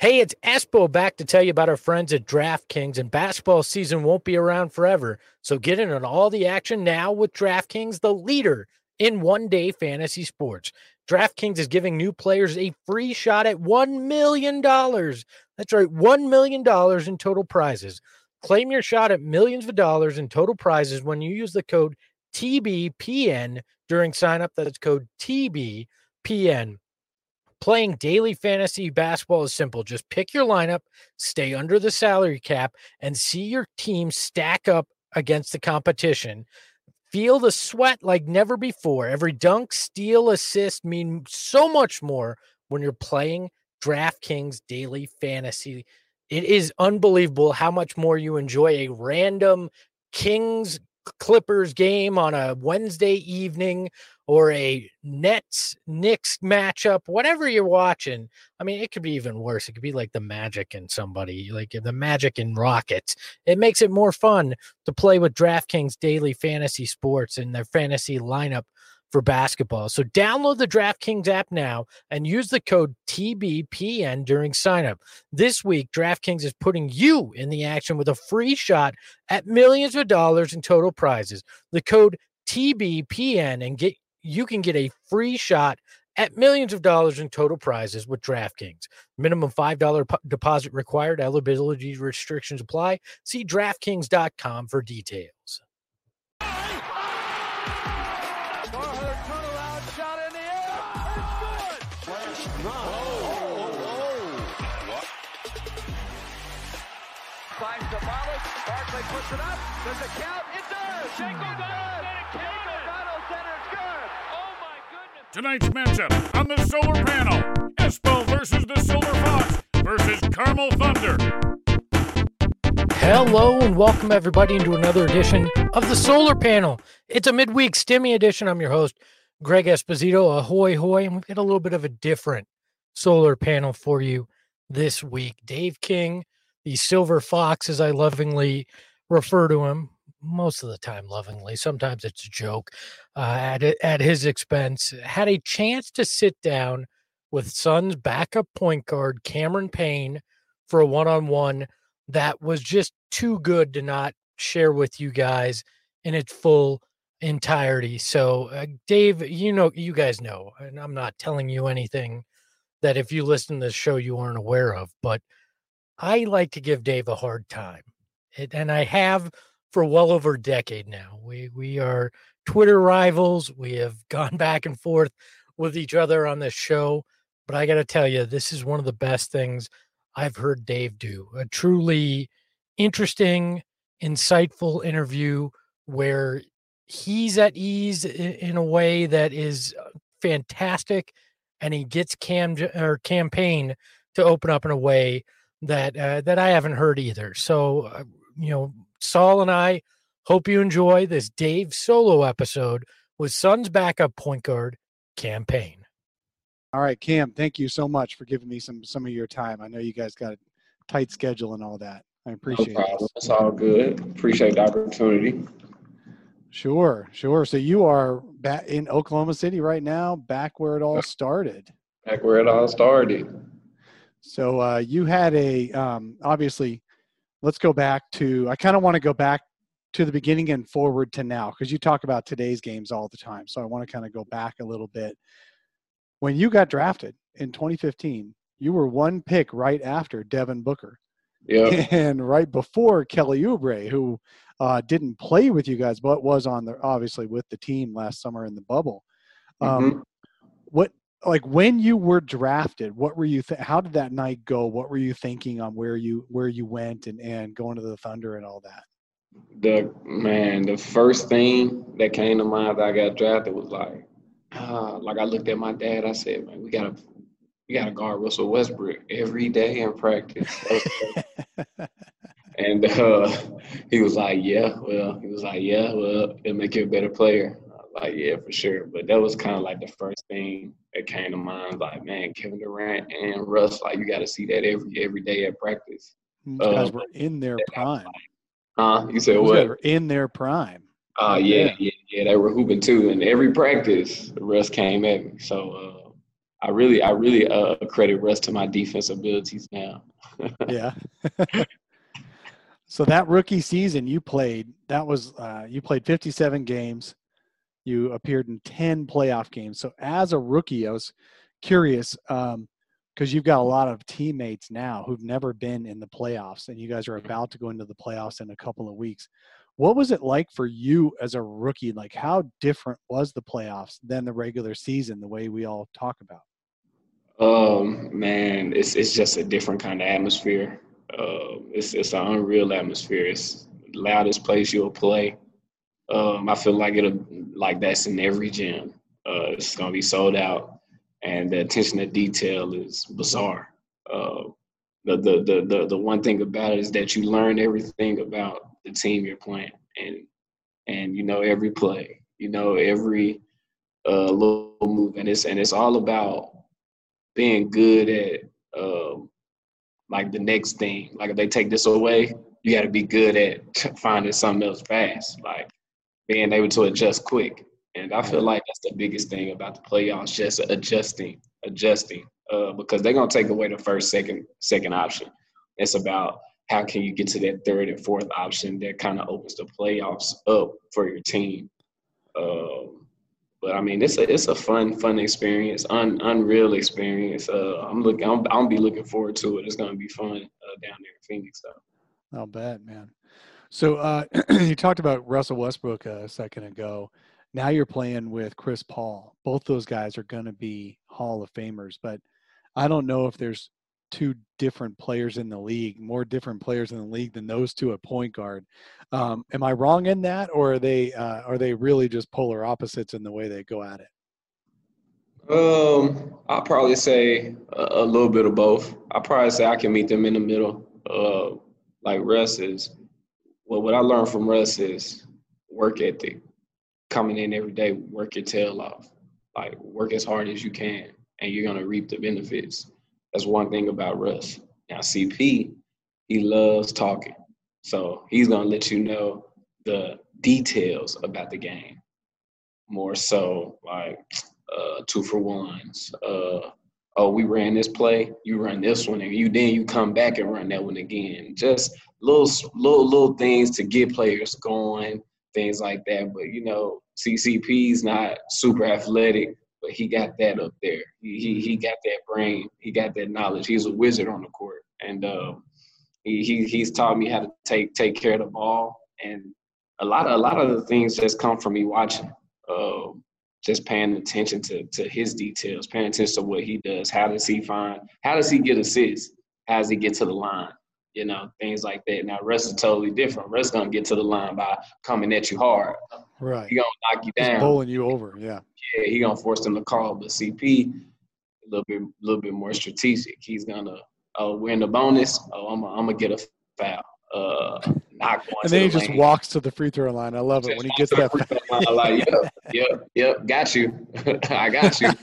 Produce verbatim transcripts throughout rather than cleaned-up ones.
Hey, it's Espo back to tell you about our friends at DraftKings, and basketball season won't be around forever. So get in on all the action now with DraftKings, the leader in one-day fantasy sports. DraftKings is giving new players a free shot at one million dollars. That's right, one million dollars in total prizes. Claim your shot at millions of dollars in total prizes when you use the code T B P N during signup. That's code T B P N. Playing daily fantasy basketball is simple. Just pick your lineup, stay under the salary cap, and see your team stack up against the competition. Feel the sweat like never before. Every dunk, steal, assist mean so much more when you're playing DraftKings daily fantasy. It is unbelievable how much more you enjoy a random Kings Clippers game on a Wednesday evening or a Nets Knicks matchup, whatever you're watching. I mean, it could be even worse. It could be like the Magic and somebody, like the Magic and Rockets. It makes it more fun to play with DraftKings daily fantasy sports and their fantasy lineup for basketball. So download the DraftKings app now and use the code T B P N during signup. This week, DraftKings is putting you in the action with a free shot at millions of dollars in total prizes. The code T B P N and get you can get a free shot at millions of dollars in total prizes with DraftKings. Minimum five dollars po- deposit required. Eligibility restrictions apply. See DraftKings dot com for details. Finds the Wallace. Barkley puts it up. Does it count? It does. Shango does. Shango Donald centers good. Oh my goodness. Tonight's matchup on the solar panel: Espo versus the Silver Fox versus Carmel Thunder. Hello and welcome everybody into another edition of the Solar Panel. It's a midweek Stimmy edition. I'm your host, Greg Esposito. Ahoy, hoy. And we've got a little bit of a different solar panel for you this week. Dave King, the Silver Fox, as I lovingly refer to him, most of the time lovingly, sometimes it's a joke, uh, at, at his expense, had a chance to sit down with Suns backup point guard Cameron Payne for a one-on-one that was just too good to not share with you guys in its full entirety. So, uh, Dave, you know, you guys know, and I'm not telling you anything that if you listen to the show you aren't aware of, but I like to give Dave a hard time, it, and I have for well over a decade now. We we are Twitter rivals. We have gone back and forth with each other on this show, but I got to tell you, this is one of the best things I've heard Dave do. A truly interesting, insightful interview where he's at ease in, in a way that is fantastic, and he gets Cam or campaign to open up in a way that uh, that I haven't heard either. So, uh, you know, Saul and I hope you enjoy this Dave solo episode with Suns backup point guard Cam Payne. All right, Cam, thank you so much for giving me some some of your time. I know you guys got a tight schedule and all that. I appreciate no it. It's all good. Appreciate the opportunity. Sure, sure. So you are back in Oklahoma City right now, back where it all started. Back where it all started. So uh, you had a um, obviously. Let's go back to. I kind of want to go back to the beginning and forward to now because you talk about today's games all the time. So I want to kind of go back a little bit. When you got drafted in twenty fifteen, you were one pick right after Devin Booker. Yeah. And right before Kelly Oubre, who uh, didn't play with you guys, but was on the obviously with the team last summer in the bubble. Um, Mm-hmm. What like when you were drafted, what were you? Th- how did that night go? What were you thinking on where you where you went and, and going to the Thunder and all that? The man, the first thing that came to mind that I got drafted was like, uh, like I looked at my dad. I said, man, we gotta we gotta guard Russell Westbrook every day in practice. And uh, he was like, yeah, well, he was like, yeah, well, it'll make you a better player. I was like, yeah, for sure. But that was kind of like the first thing that came to mind. Like, man, Kevin Durant and Russ, like, you got to see that every every day at practice. These Uh, guys were in their prime. Huh? You said Those what? guys were in their prime. Uh, right yeah, there. yeah, yeah. They were hooping too. And every practice, Russ came at me. So uh, I really, I really uh, credit Russ to my defense abilities now. Yeah. So that rookie season you played, that was uh, you played fifty-seven games. You appeared in ten playoff games. So as a rookie, I was curious um, because you've got a lot of teammates now who've never been in the playoffs, and you guys are about to go into the playoffs in a couple of weeks. What was it like for you as a rookie? Like, how different was the playoffs than the regular season, the way we all talk about? Um, man, it's it's just a different kind of atmosphere. Uh, it's it's an unreal atmosphere. It's the loudest place you'll play. Um, I feel like it'll like that's in every gym. Uh, it's gonna be sold out, and the attention to detail is bizarre. Uh, the, the the the the one thing about it is that you learn everything about the team you're playing, and and you know every play, you know every uh, little move, and it's and it's all about being good at um, like the next thing. Like if they take this away, you got to be good at finding something else fast. Like being able to adjust quick. And I feel like that's the biggest thing about the playoffs, just adjusting, adjusting, uh, because they're gonna take away the first, second, second option. It's about how can you get to that third and fourth option that kind of opens the playoffs up for your team. Um, but I mean, it's a it's a fun, fun experience, un, unreal experience. Uh, I'm looking, I'm, I'm be looking forward to it. It's gonna be fun uh, down there in Phoenix, though. I'll bet, man. So uh, you talked about Russell Westbrook a second ago. Now you're playing with Chris Paul. Both those guys are going to be Hall of Famers, but I don't know if there's two different players in the league, more different players in the league than those two at point guard. Um, am I wrong in that, or are they uh, are they really just polar opposites in the way they go at it? Um, I'll probably say a, a little bit of both. I'll probably say I can meet them in the middle. Uh, like Russ is, well, what I learned from Russ is work ethic. Coming in every day, work your tail off. Like work as hard as you can, and you're gonna reap the benefits. That's one thing about Russ. Now C P, he loves talking, so he's gonna let you know the details about the game more so, like uh, two for ones. Uh, oh, we ran this play, you run this one, and you then you come back and run that one again. Just little, little, little things to get players going, things like that. But you know, C C P's not super athletic, but he got that up there. He he, he got that brain. He got that knowledge. He's a wizard on the court, and uh, he, he he's taught me how to take take care of the ball. And a lot of a lot of the things just come from me watching. Uh, just paying attention to to his details, paying attention to what he does. How does he find? How does he get assists? How does he get to the line? You know, things like that. Now, Russ is totally different. Russ gonna get to the line by coming at you hard. Right. He gonna knock you down. Just bowling you over. Yeah. Yeah, he gonna force them to call. But C P, a little bit, a little bit more strategic. He's gonna, oh, we're in the bonus. Oh, I'm, I'm gonna get a foul. Uh, not going and to then he the just lane. walks to the free throw line. I love it when he gets that. I'm like, yep, yep, yep, got you. I got you.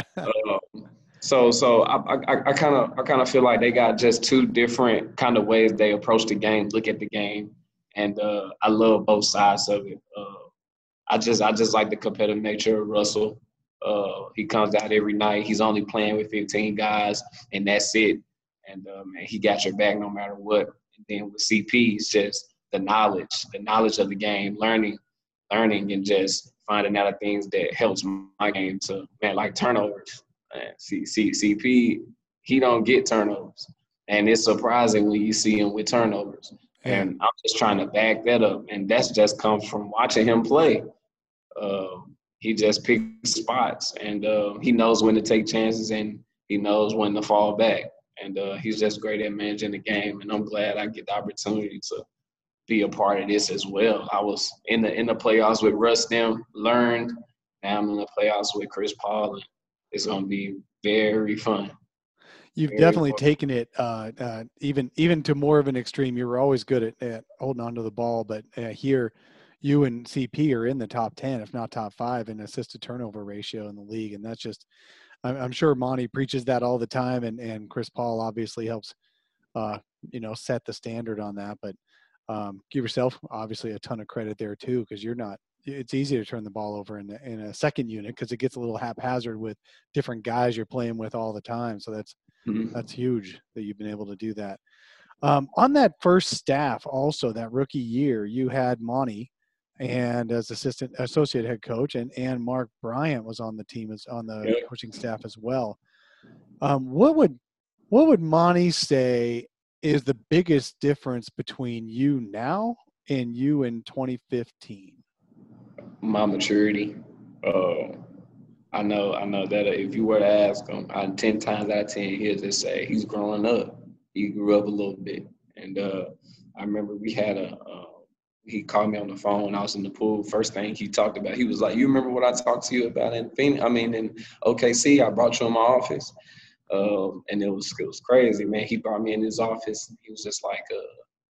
um, so, so I, I, I kind of, I kind of feel like they got just two different kind of ways they approach the game, look at the game, and uh, I love both sides of it. Uh, I just, I just like the competitive nature of Russell. Uh, he comes out every night. He's only playing with fifteen guys, and that's it. And uh, man, he got your back no matter what. And then with C P, it's just the knowledge, the knowledge of the game, learning, learning, and just finding out things that helps my game to, man, like turnovers. Man, C, C, C P, he don't get turnovers. And it's surprising when you see him with turnovers. Yeah. And I'm just trying to back that up. And that's just comes from watching him play. Uh, he just picks spots, and uh, he knows when to take chances, and he knows when to fall back. And uh, he's just great at managing the game, and I'm glad I get the opportunity to be a part of this as well. I was in the in the playoffs with Russ, them learned. Now I'm in the playoffs with Chris Paul, and it's going to be very fun. You've very definitely fun. taken it uh, uh, even even to more of an extreme. You were always good at, at holding on to the ball, but uh, here you and C P are in the top ten, if not top five, in assist to turnover ratio in the league, and that's just – I'm sure Monty preaches that all the time, and, and Chris Paul obviously helps, uh, you know, set the standard on that. But um, give yourself obviously a ton of credit there too, because you're not it's easy to turn the ball over in, in a second unit because it gets a little haphazard with different guys you're playing with all the time. So that's mm-hmm. that's huge that you've been able to do that. Um, on that first staff, also that rookie year, you had Monty, and as assistant associate head coach, and and Mark Bryant was on the team as on the yep. coaching staff as well. Um, what would what would Monty say is the biggest difference between you now and you in twenty fifteen? My maturity. Uh, I know I know that if you were to ask him, I, ten times out of ten, he'll just say he's growing up. He grew up a little bit. And uh, I remember we had a uh, – he called me on the phone. I was in the pool. First thing he talked about, he was like, you remember what I talked to you about in Phoenix? I mean, in O K C, I brought you in my office. Um, and it was it was crazy, man. He brought me in his office. He was just like, uh,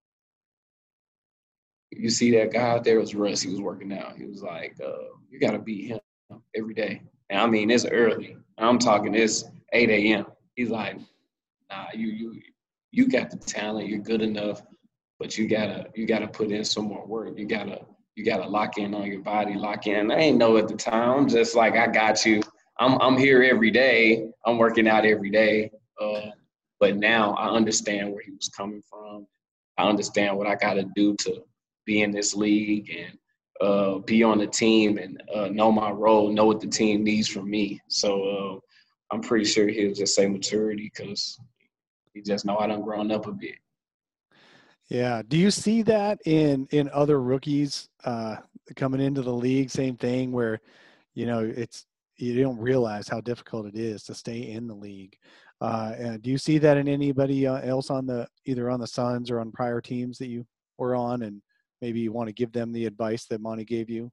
you see that guy out there? It was Russ. He was working out. He was like, uh, you got to beat him every day. And I mean, it's early. I'm talking it's eight a.m. He's like, nah, you you you got the talent. You're good enough, but you gotta you gotta put in some more work. You gotta you gotta lock in on your body, lock in. I ain't know at the time. I'm just like, I got you. I'm I'm here every day. I'm working out every day. Uh, but now I understand where he was coming from. I understand what I got to do to be in this league and uh, be on the team and uh, know my role, know what the team needs from me. So uh, I'm pretty sure he'll just say maturity because he just know I done grown up a bit. Yeah. Do you see that in in other rookies uh, coming into the league? Same thing where, you know, it's you don't realize how difficult it is to stay in the league. Uh, and do you see that in anybody else on the either on the Suns or on prior teams that you were on, and maybe you want to give them the advice that Monty gave you?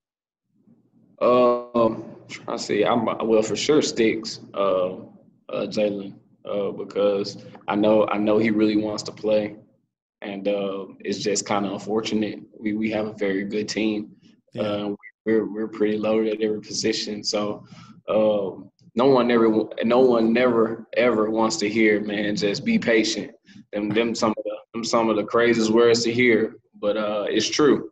Um, I see. I'm well for sure. Sticks, uh, uh, Jalen, uh, because I know I know he really wants to play, and uh, it's just kind of unfortunate. We we have a very good team. Yeah. Uh, we're we're pretty loaded at every position. So uh, no one ever no one never ever wants to hear, man, just be patient. Them them some of the them some of the craziest words to hear, but uh, it's true.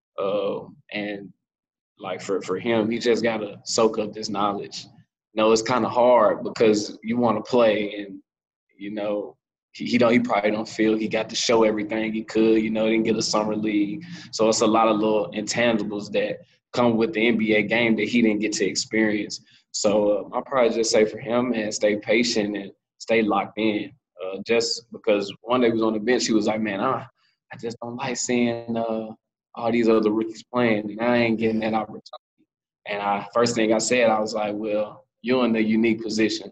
Uh, and like for, for him, he just got to soak up this knowledge. You know, it's kind of hard because you want to play and, you know, he, he don't, he probably don't feel he got to show everything he could, you know, didn't get a summer league. So it's a lot of little intangibles that come with the N B A game that he didn't get to experience. So uh, I'll probably just say for him, man, stay patient and stay locked in. Uh, just because one day he was on the bench, he was like, man, I, I just don't like seeing uh, – all these other rookies playing, and I ain't getting that opportunity. And I first thing I said, I was like, well, you're in a unique position.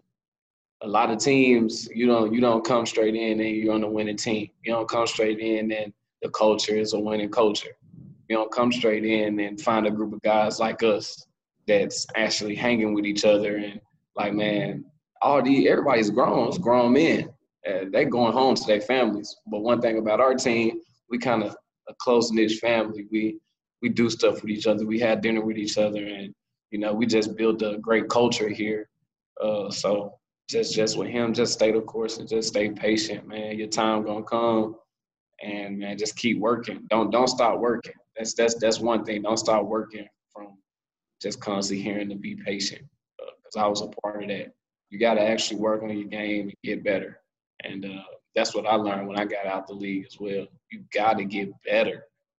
A lot of teams, you don't you don't come straight in and you're on a winning team. You don't come straight in and the culture is a winning culture. You don't come straight in and find a group of guys like us that's actually hanging with each other and like, man, all the everybody's grown, it's grown men. Uh, they're going home to their families. But one thing about our team, we kind of a close-knit family. We we do stuff with each other. We had dinner with each other, and you know, we just built a great culture here. Uh, so just just with him, just stay the course and just stay patient, man. Your time gonna come, and man, just keep working. Don't don't stop working. That's that's that's one thing. Don't stop working from just constantly hearing to be patient. Because uh, I was a part of that. You got to actually work on your game and get better. And uh, that's what I learned when I got out the league as well. You got to get better.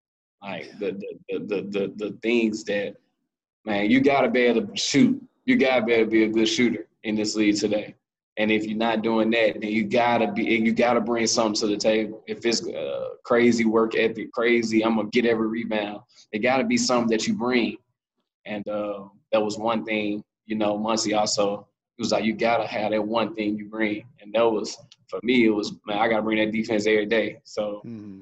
Like the the, the the the things that, man, you got to be able to shoot. You got to be able to be a good shooter in this league today. And if you're not doing that, then you got to be you got to bring something to the table. If it's uh, crazy work ethic, crazy, I'm going to get every rebound. It got to be something that you bring. And uh, that was one thing, you know, Muncie also, it was like you got to have that one thing you bring. And that was, for me, it was, man, I got to bring that defense every day. So mm-hmm.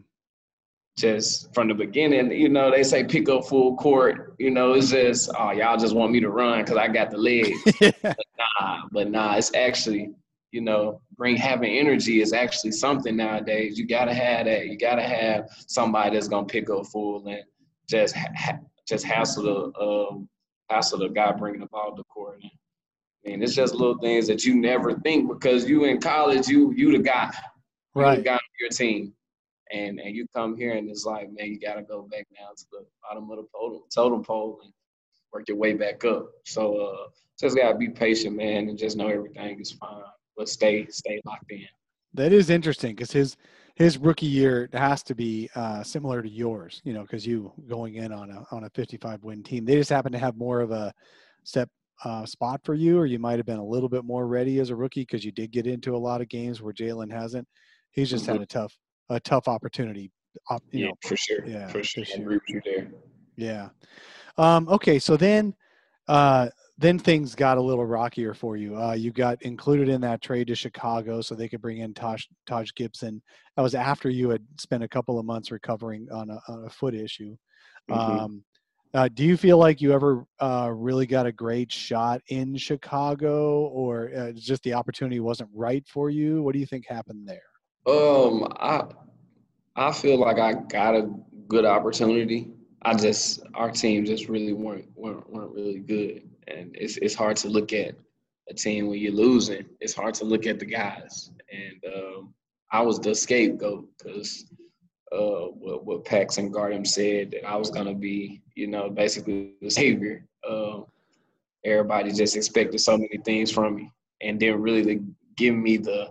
just from the beginning, you know, they say pick up full court. You know, it's just, oh, y'all just want me to run because I got the legs. but nah, but nah, it's actually, you know, bring having energy is actually something nowadays. You got to have that. You got to have somebody that's going to pick up full and just ha- just hassle the, um, hassle the guy bringing the ball to the court. And, I mean, it's just little things that you never think because you in college, you you the guy. You right. the guy on your team. And and you come here and it's like, man, you gotta go back down to the bottom of the totem totem pole and work your way back up. So uh, just gotta be patient, man, and just know everything is fine. But stay stay locked in. That is interesting because his his rookie year has to be uh, similar to yours, you know, because you going in on a on a fifty-five win team. They just happen to have more of a step uh, spot for you, or you might have been a little bit more ready as a rookie because you did get into a lot of games where Jalen hasn't. He's just Mm-hmm. had a tough a tough opportunity. Op, you Yeah, know, for sure. yeah, For sure. this I year. agree with you there. Yeah. Um, okay, so then uh, then things got a little rockier for you. Uh, you got included in that trade to Chicago so they could bring in Taj, Taj Gibson. That was after you had spent a couple of months recovering on a, on a foot issue. Mm-hmm. Um, uh, do you feel like you ever uh, really got a great shot in Chicago, or uh, just the opportunity wasn't right for you? What do you think happened there? Um, I I feel like I got a good opportunity. I just our team just really weren't weren't, weren't really good, and it's it's hard to look at a team when you're losing. It's hard to look at the guys, and um, I was the scapegoat because uh, what what Paxson Gardem said that I was gonna be, you know, basically the savior. Um, everybody just expected so many things from me, and didn't really give me the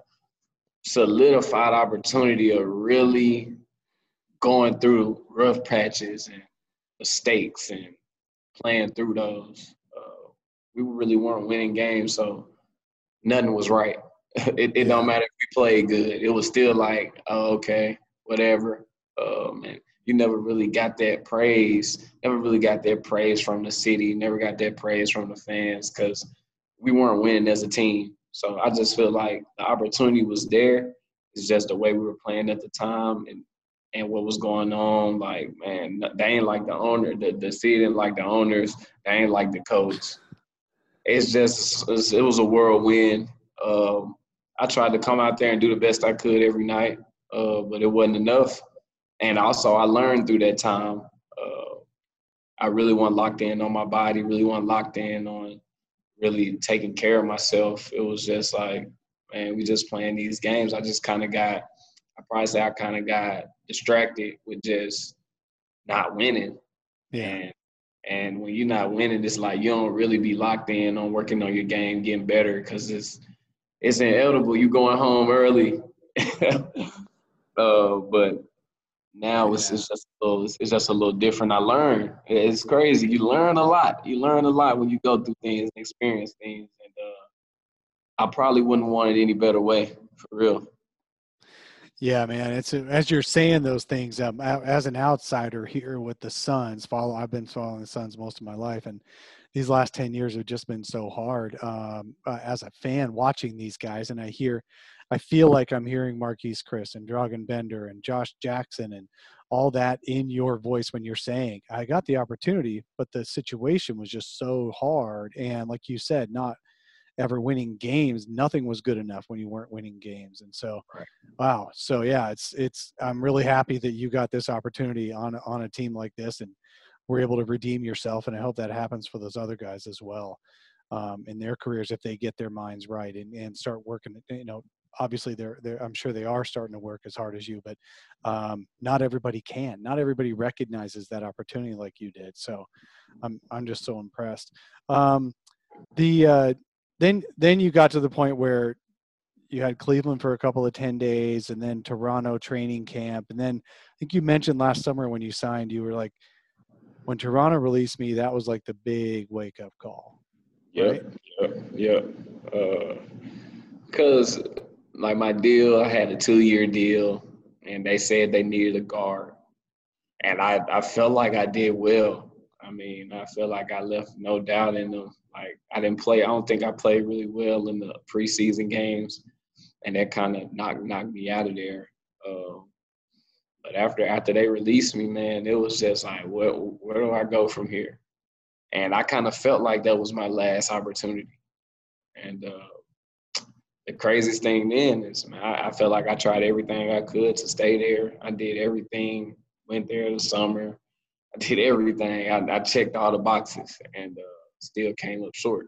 solidified opportunity of really going through rough patches and mistakes and playing through those. Uh, we really weren't winning games, so nothing was right. it it Yeah. don't matter if we played good. It was still like, oh, okay, whatever. Um, and you never really got that praise. Never really got that praise from the city. Never got that praise from the fans because we weren't winning as a team. So I just feel like the opportunity was there. It's just the way we were playing at the time and and what was going on. Like, man, they ain't like the owner. The, the city didn't like the owners. They ain't like the coach. It's just it's, it was a whirlwind. Um, I tried to come out there and do the best I could every night, uh, but it wasn't enough. And also, I learned through that time. Uh, I really wasn't locked in on my body. Really wasn't locked in on really taking care of myself. It was just like, man, we just playing these games. I just kind of got, I probably say I kind of got distracted with just not winning. Yeah. And and when you're not winning, it's like you don't really be locked in on working on your game, getting better, because it's it's inevitable. You going home early. uh, but now it's, Yeah. it's just a little, it's, it's just a little different. I learned. It's crazy. You learn a lot. You learn a lot when you go through things and experience things. And uh, I probably wouldn't want it any better way, for real. Yeah, man. It's as you're saying those things. Um, as an outsider here with the Suns, follow. I've been following the Suns most of my life, and these last ten years have just been so hard. Um, uh, as a fan, watching these guys, and I hear, I feel like I'm hearing Marquise Chris and Dragan Bender and Josh Jackson and all that in your voice when you're saying, "I got the opportunity, but the situation was just so hard." And like you said, not ever winning games. Nothing was good enough when you weren't winning games. And so, Right. wow. So yeah, it's, it's, I'm really happy that you got this opportunity on, on a team like this and were able to redeem yourself. And I hope that happens for those other guys as well, um, in their careers, if they get their minds right and, and start working, you know, obviously they're, they're, I'm sure they are starting to work as hard as you, but um, not everybody can, not everybody recognizes that opportunity like you did. So I'm, I'm just so impressed. Um, the, uh, Then, then you got to the point where you had Cleveland for a couple of ten days and then Toronto training camp. And then I think you mentioned last summer when you signed, you were like, when Toronto released me, that was like the big wake up call. Yep, right? yep, yep. Uh, Cause like my deal, I had a two-year deal, and they said they needed a guard, and I, I felt like I did well. I mean, I felt like I left no doubt in them. Like I didn't play. I don't think I played really well in the preseason games, and that kind of knocked knocked me out of there. Um, but after after they released me, man, it was just like, where where do I go from here? And I kind of felt like that was my last opportunity. And uh, the craziest thing then is, man, I, I felt like I tried everything I could to stay there. I did everything. Went there in the summer. I did everything. I, I checked all the boxes and uh, still came up short.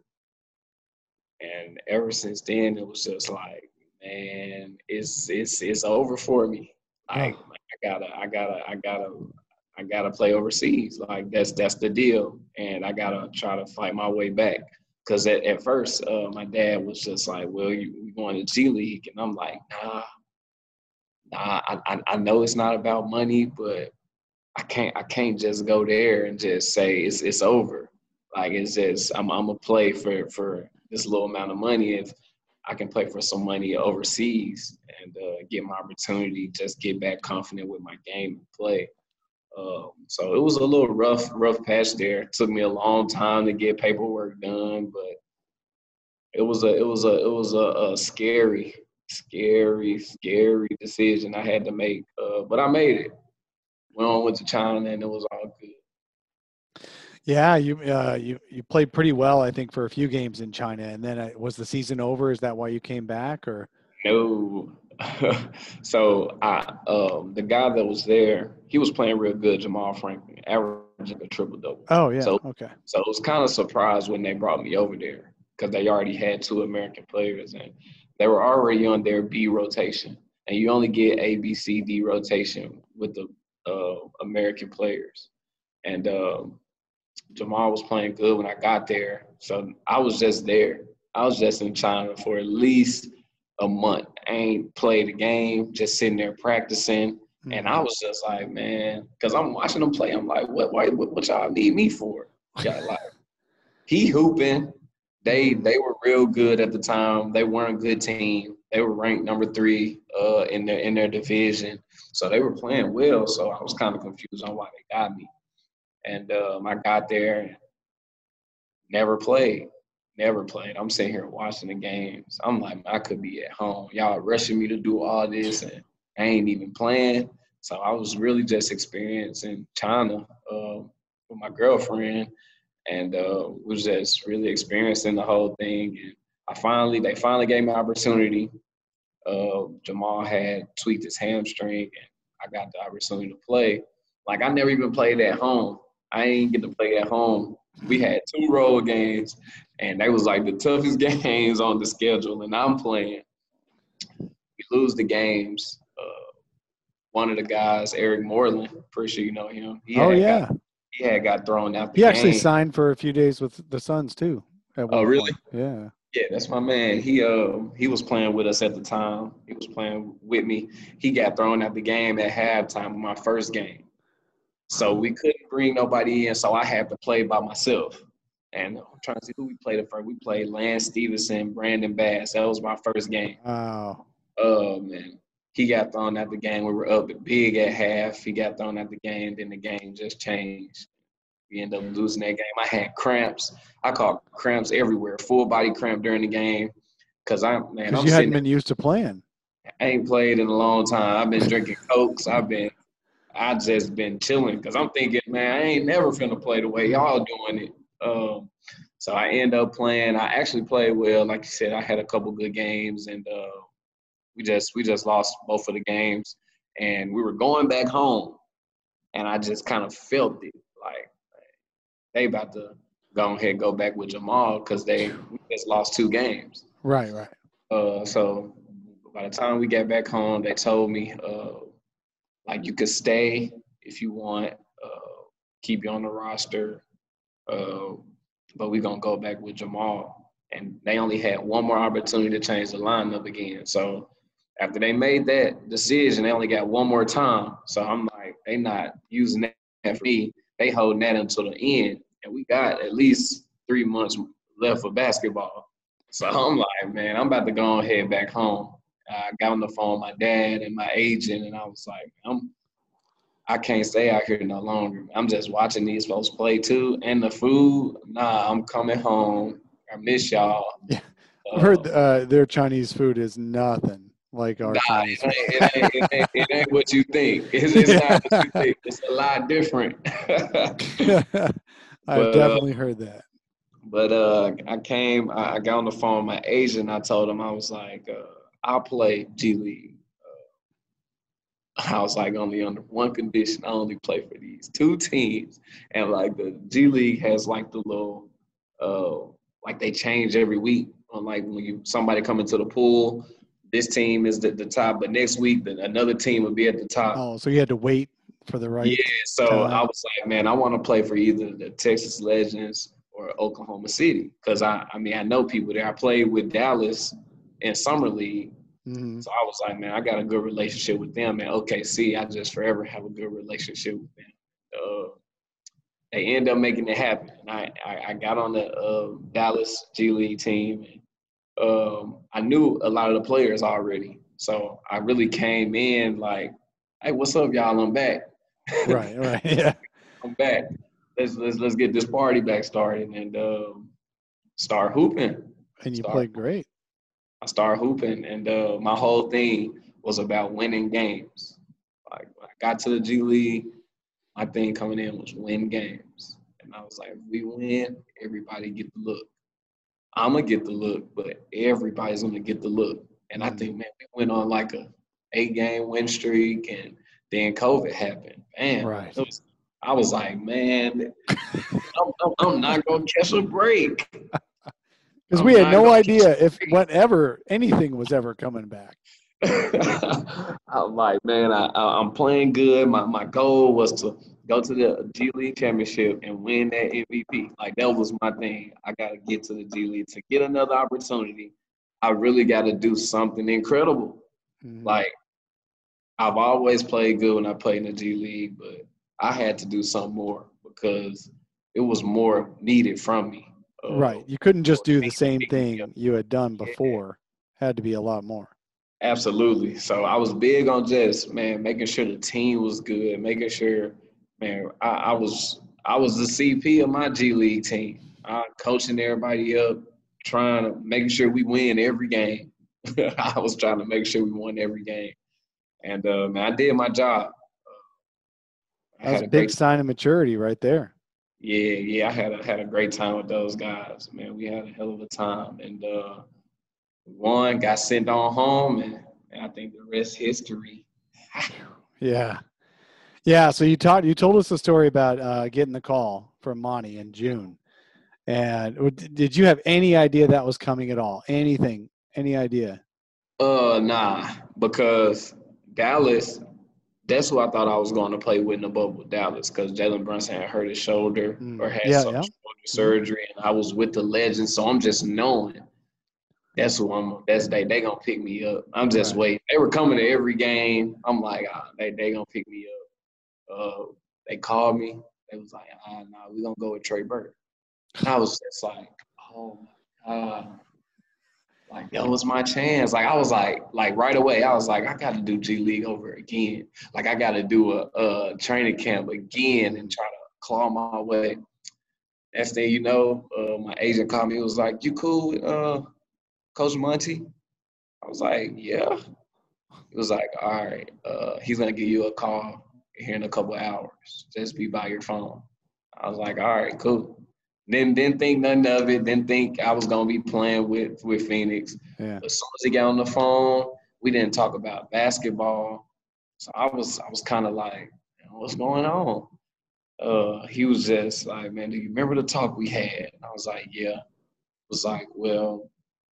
And ever since then, it was just like, man, it's it's it's over for me. Like, Oh. like I gotta, I gotta, I gotta, I gotta play overseas. Like that's that's the deal, and I gotta try to fight my way back. Because at, at first, uh, my dad was just like, "Well, you we going to G League," and I'm like, "Nah, nah. I, I I know it's not about money, but I can't I can't just go there and just say it's it's over. Like it's just I'm I'm gonna play for for this little amount of money if I can play for some money overseas and uh, get my opportunity, just get back confident with my game and play." Um, so it was a little rough, rough patch there. It took me a long time to get paperwork done, but it was a, it was a, it was a, a scary, scary, scary decision I had to make. Uh, but I made it. Went on, went to China, and it was all good. Yeah, you uh, you you played pretty well, I think, for a few games in China, and then uh, was the season over? Is that why you came back, or? No. So I, um, the guy that was there, he was playing real good, Jamal Franklin, averaging a triple double. Oh yeah. So, okay. So it was kind of surprised when they brought me over there because they already had two American players and they were already on their B rotation, and you only get A, B, C, D rotation with the uh, American players. And um, Jamal was playing good when I got there, so I was just there. I was just in China for at least a month. I ain't played a game, just sitting there practicing. Mm-hmm. And I was just like, man, because I'm watching them play. I'm like, what, what, what y'all need me for? Yeah, like, he hooping. They they were real good at the time. They weren't a good team. They were ranked number three uh, in their in their division. So they were playing well. So I was kind of confused on why they got me. And um, I got there, never played. Never played. I'm sitting here watching the games. I'm like, I could be at home. Y'all rushing me to do all this, and I ain't even playing. So I was really just experiencing China uh, with my girlfriend, and uh, was just really experiencing the whole thing. And I finally, they finally gave me an opportunity. Uh, Jamal had tweaked his hamstring, and I got the opportunity to play. Like I never even played at home. I didn't get to play at home. We had two road games, and they was like the toughest games on the schedule, and I'm playing. We lose the games. Uh, one of the guys, Eric Moreland, pretty sure you know him. He oh, yeah. Got, he had got thrown out the he game. He actually signed for a few days with the Suns, too. Oh, really? Point. Yeah. Yeah, that's my man. He uh, he was playing with us at the time. He was playing with me. He got thrown out the game at halftime of my first game. So we couldn't bring nobody in, so I had to play by myself. And I'm trying to see who we played at first. We played Lance Stevenson, Brandon Bass. That was my first game. Wow. Oh, man. He got thrown out the game. We were up big at half. He got thrown out the game. Then the game just changed. We ended up losing that game. I had cramps. I caught cramps everywhere, full body cramp during the game. Because I'm, man, I'm you hadn't been used to playing. I ain't played in a long time. I've been drinking Cokes. I've been – I just been chilling because I'm thinking, man, I ain't never finna play the way y'all doing it. Um, so I end up playing. I actually played well. Like you said, I had a couple good games, and uh, we just we just lost both of the games. And we were going back home, and I just kind of felt it. Like, they about to go ahead and go back with Jamal because they we just lost two games. Right, right. Uh, so by the time we got back home, they told me uh, – like you could stay if you want, uh, keep you on the roster, uh, but we're going to go back with Jamal. And they only had one more opportunity to change the lineup again. So after they made that decision, they only got one more time. So I'm like, they not using that for me. They holding that until the end. And we got at least three months left for basketball. So I'm like, man, I'm about to go ahead back home. I got on the phone with my dad and my agent, and I was like, I'm, I can't stay out here no longer. I'm just watching these folks play too. And the food, nah, I'm coming home. I miss y'all. Yeah. Uh, I heard uh, their Chinese food is nothing like our nah, Chinese food. It ain't, it, ain't, it, ain't, it ain't what you think. It's, it's not what you think. It's a lot different. I've definitely uh, heard that. But uh, I came, I, I got on the phone with my agent. I told him, I was like, uh, I'll play G League. Uh, I was like, only under one condition. I only play for these two teams. And like the G League has like the little, uh, like they change every week. On like when you somebody come into the pool, this team is at the top, but next week another team will be at the top. Oh, so you had to wait for the right. Yeah, so time. I was like, man, I want to play for either the Texas Legends or Oklahoma City because I, I mean, I know people there. I played with Dallas in summer league, Mm-hmm. so I was like, man, I got a good relationship with them. And O K C, I just forever have a good relationship with them. Uh, they end up making it happen. And I, I, I got on the uh, Dallas G League team. And, um, I knew a lot of the players already, so I really came in like, hey, what's up, y'all? I'm back. Right, right, yeah. I'm back. Let's let's let's get this party back started and um, start hooping. And you start, played great. I started hooping, and uh, my whole thing was about winning games. Like when I got to the G League, my thing coming in was win games, and I was like, if we win, everybody get the look. I'm gonna get the look, but everybody's gonna get the look. And I think, man, we went on like a eight-game win streak, and then COVID happened. Man, Right. was, I was like, man, I'm, I'm, I'm not going to catch a break. Because we had no idea if whatever, anything was ever coming back. I'm like, man, I, I, I'm playing good. My my goal was to go to the G League championship and win that M V P. Like, that was my thing. I got to get to the G League. To get another opportunity, I really got to do something incredible. Mm-hmm. Like, I've always played good when I played in the G League, but I had to do something more because it was more needed from me. Uh, right. You couldn't just do the same thing you had done before. Had to be a lot more. Absolutely. So I was big on just, man, making sure the team was good, making sure, man, I, I was I was the C P of my G League team. Uh, coaching everybody up, trying to making sure we win every game. I was trying to make sure we won every game. And, uh, man, I did my job. Uh, That's a big sign of maturity right there. Yeah, yeah, I had a, had a great time with those guys, man. We had a hell of a time. And uh, one got sent on home, and, and I think the rest history. Yeah. Yeah, so you taught, you told us the story about uh, getting the call from Monty in June. And did you have any idea that was coming at all? Anything? Any idea? Uh, nah, because Dallas, that's who I thought I was going to play with in the bubble, Dallas, because Jalen Brunson had hurt his shoulder mm. or had yeah, some yeah. shoulder surgery, and I was with the Legends, so I'm just knowing that's who I'm. That's they. They gonna pick me up. I'm just right. waiting. They were coming to every game. I'm like, ah, they they gonna pick me up. Uh, they called me. They was like, ah, nah, we gonna go with Trey Burke. And I was just like, oh my god. Like, that was my chance. Like, I was like, like right away, I was like, I got to do G League over again. Like, I got to do a, a training camp again and try to claw my way. Next thing you know, uh, my agent called me. He was like, you cool with uh, Coach Monty? I was like, yeah. He was like, all right, uh, he's going to give you a call here in a couple of hours. Just be by your phone. I was like, all right, cool. Then didn't think nothing of it. Didn't think I was gonna be playing with with Phoenix. Yeah. As soon as he got on the phone, we didn't talk about basketball. So I was I was kind of like, what's going on? Uh, he was just like, man, do you remember the talk we had? And I was like, yeah. It was like, well,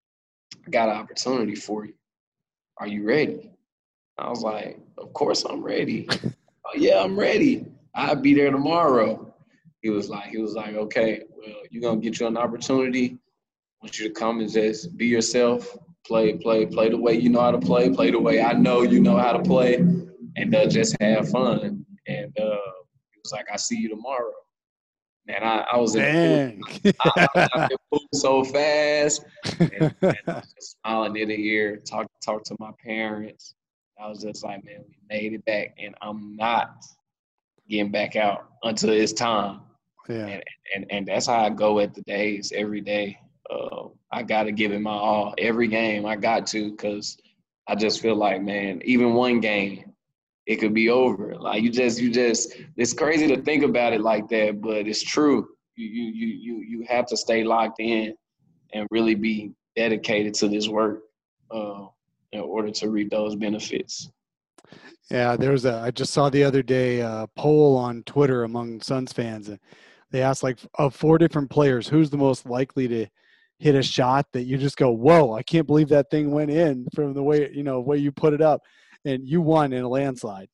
I got an opportunity for you. Are you ready? I was like, of course I'm ready. Oh, yeah, I'm ready. I'll be there tomorrow. He was like, he was like, okay, well, you're going to get you an opportunity. I want you to come and just be yourself, play, play, play the way you know how to play, play the way I know you know how to play, and uh, just have fun. And uh, he was like, I see you tomorrow. And I, I was in Dang. the pool. I, I, I moved so fast. And, and I was just smiling ear to ear, talk, talk to my parents. I was just like, man, we made it back, and I'm not getting back out until it's time. Yeah. And, and and that's how I go at the days every day. Uh, I got to give it my all. Every game I got to, because I just feel like, man, even one game, it could be over. Like, you just, you just, it's crazy to think about it like that, but it's true. You you you you you have to stay locked in and really be dedicated to this work uh, in order to reap those benefits. Yeah, there's a, I just saw the other day a poll on Twitter among Suns fans. And they asked, like, of four different players, who's the most likely to hit a shot that you just go, whoa, I can't believe that thing went in from the way, you know, way you put it up, and you won in a landslide.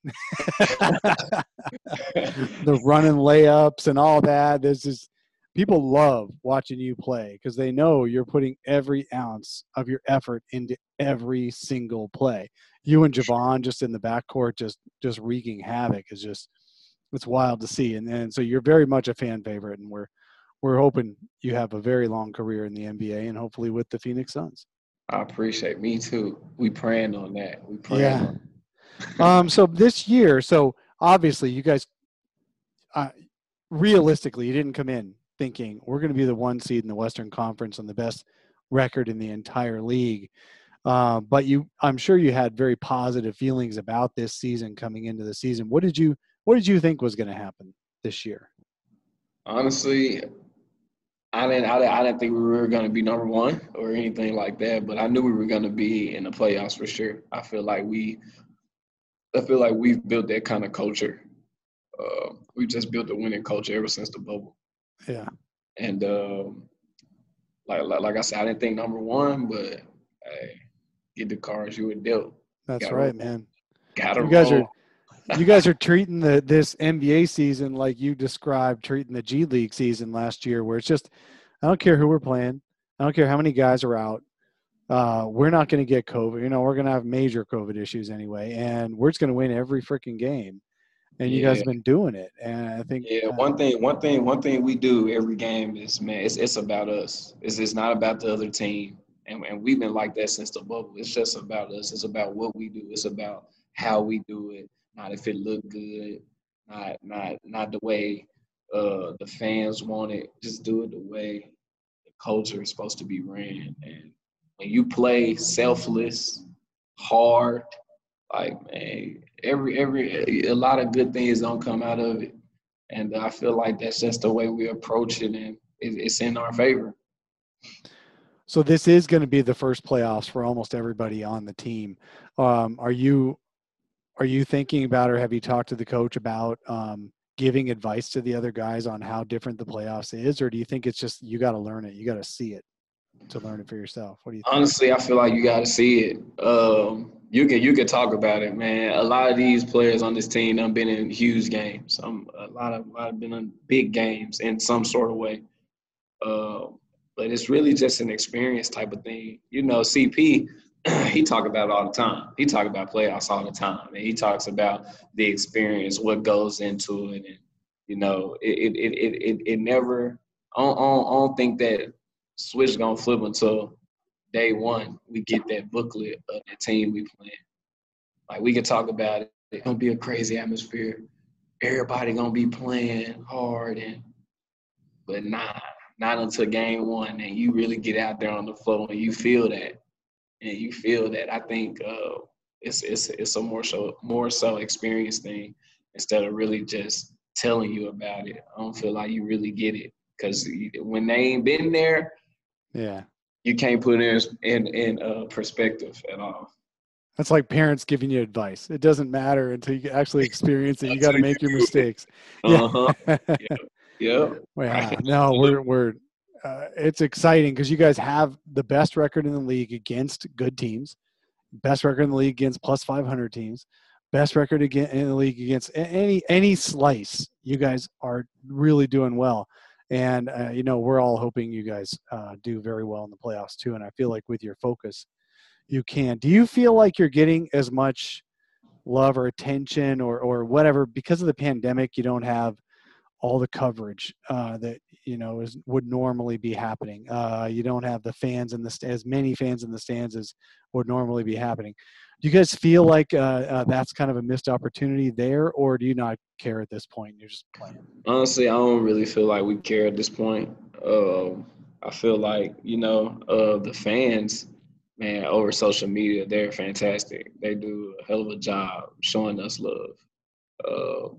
The running layups and all that. There's just, people love watching you play because they know you're putting every ounce of your effort into every single play. You and Javon just in the backcourt, just, just wreaking havoc is just, it's wild to see. And then, so you're very much a fan favorite, and we're, we're hoping you have a very long career in the N B A and hopefully with the Phoenix Suns. I appreciate me too. We praying on that. We praying Yeah. on um, so this year, so obviously you guys, uh, realistically, you didn't come in thinking we're going to be the one seed in the Western Conference and the best record in the entire league. Uh, but you, I'm sure you had very positive feelings about this season coming into the season. What did you, what did you think was going to happen this year? Honestly, I didn't, I didn't, I didn't think we were going to be number one or anything like that, but I knew we were going to be in the playoffs for sure. I feel like we, I feel like we've built that kind of culture. Uh, we just built a winning culture ever since the bubble. Yeah. And um, like, like like I said, I didn't think number one, but hey, get the cards you were dealt. That's Gotta right, roll. man. Gotta You guys roll. are, you guys are treating the this N B A season like you described treating the G League season last year, where it's just, I don't care who we're playing, I don't care how many guys are out. Uh, we're not going to get COVID. You know, we're going to have major COVID issues anyway, and we're just going to win every freaking game. And you Yeah. guys have been doing it, and I think Yeah, uh, one thing, one thing, one thing we do every game is, man, it's it's about us. It's it's not about the other team, and and we've been like that since the bubble. It's just about us. It's about what we do. It's about how we do it. Not if it look good. Not not not the way uh, the fans want it. Just do it the way the culture is supposed to be ran. And when you play selfless, hard, like, man, every every a lot of good things don't come out of it. And I feel like that's just the way we approach it, and it's in our favor. so this is going to be the first playoffs for almost everybody on the team. Um, are you are you thinking about, or have you talked to the coach about um, giving advice to the other guys on how different the playoffs is, or do you think it's just you got to learn it, you got to see it to learn it for yourself? What do you think? Honestly, I feel like you got to see it. Um, you can you can talk about it, man. A lot of these players on this team have been in huge games. Some a lot of a lot have been in big games in some sort of way. Uh, but it's really just an experience type of thing. You know, C P, he talk about it all the time. He talk about playoffs all the time, and he talks about the experience, what goes into it, and you know, it it it it, it never. I don't, I don't, I don't think that switch gonna flip until day one we get that booklet of the team we playing. Like, we can talk about it. It's gonna be a crazy atmosphere. Everybody gonna be playing hard, and but nah, not until game one, and you really get out there on the floor and you feel that, and you feel that. I think uh, it's it's it's a more so more so experience thing instead of really just telling you about it. I don't feel like you really get it because when they ain't been there, Yeah. you can't put it in in, in uh, perspective at all. That's like parents giving you advice. It doesn't matter until you actually experience it. You got to make your mistakes. Uh-huh. Yeah. Yeah. Yeah. Wow. No, we're we're uh, it's exciting because you guys have the best record in the league against good teams, best record in the league against plus five hundred teams, best record again in the league against any any slice. You guys are really doing well, and uh, you know we're all hoping you guys uh, do very well in the playoffs too. And I feel like with your focus, you can. Do you feel like you're getting as much love or attention or or whatever because of the pandemic? You don't have all the coverage uh, that you know is would normally be happening. Uh, you don't have the fans in the as many fans in the stands as would normally be happening. Do you guys feel like uh, uh, that's kind of a missed opportunity there, or do you not care at this point? You're just playing. Honestly, I don't really feel like we care at this point. Um, I feel like, you know, uh, the fans, man, over social media, they're fantastic. They do a hell of a job showing us love, uh,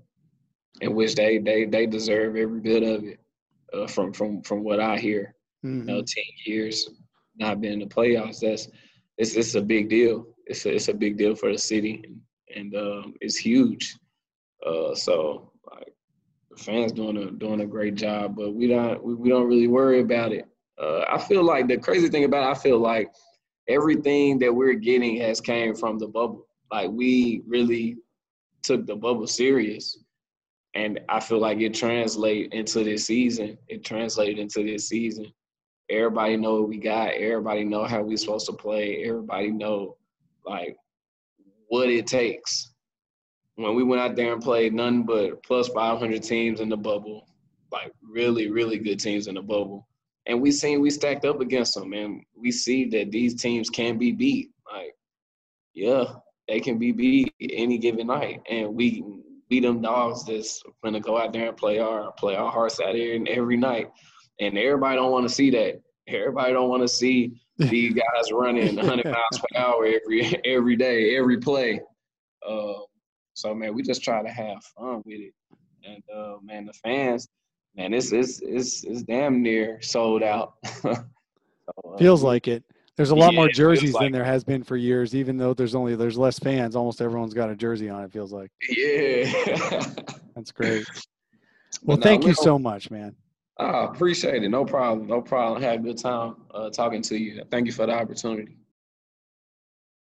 in which they they they deserve every bit of it. Uh, from from from what I hear, Mm-hmm. you know, ten years not being in the playoffs, that's it's it's a big deal. It's a, it's a big deal for the city, and, and um, it's huge. Uh, so like the fans doing a doing a great job, but we don't we, we don't really worry about it. Uh, I feel like the crazy thing about it, I feel like everything that we're getting has came from the bubble. Like, we really took the bubble serious. And I feel like it translated into this season. It translated into this season. Everybody know what we got. Everybody know how we supposed to play. Everybody know, like, what it takes. When we went out there and played nothing but plus five hundred teams in the bubble, like really, really good teams in the bubble. And we seen we stacked up against them, and we see that these teams can be beat. Like, yeah, they can be beat any given night. And we beat them dogs that's going to go out there and play our play our hearts out here and every night. And everybody don't want to see that. Everybody don't want to see these guys running one hundred miles per hour every every day, every play. Uh, so, man, we just try to have fun with it. And, uh, man, the fans, man, it's, it's, it's, it's damn near sold out. so, uh, Feels like it. There's a lot yeah, more it feels jerseys like than there has been for years, even though there's only there's less fans. Almost everyone's got a jersey on, it feels like. Yeah. That's great. Well, no, thank you we don't- so much, man. I appreciate it. No problem. No problem. Had a good time uh, talking to you. Thank you for the opportunity.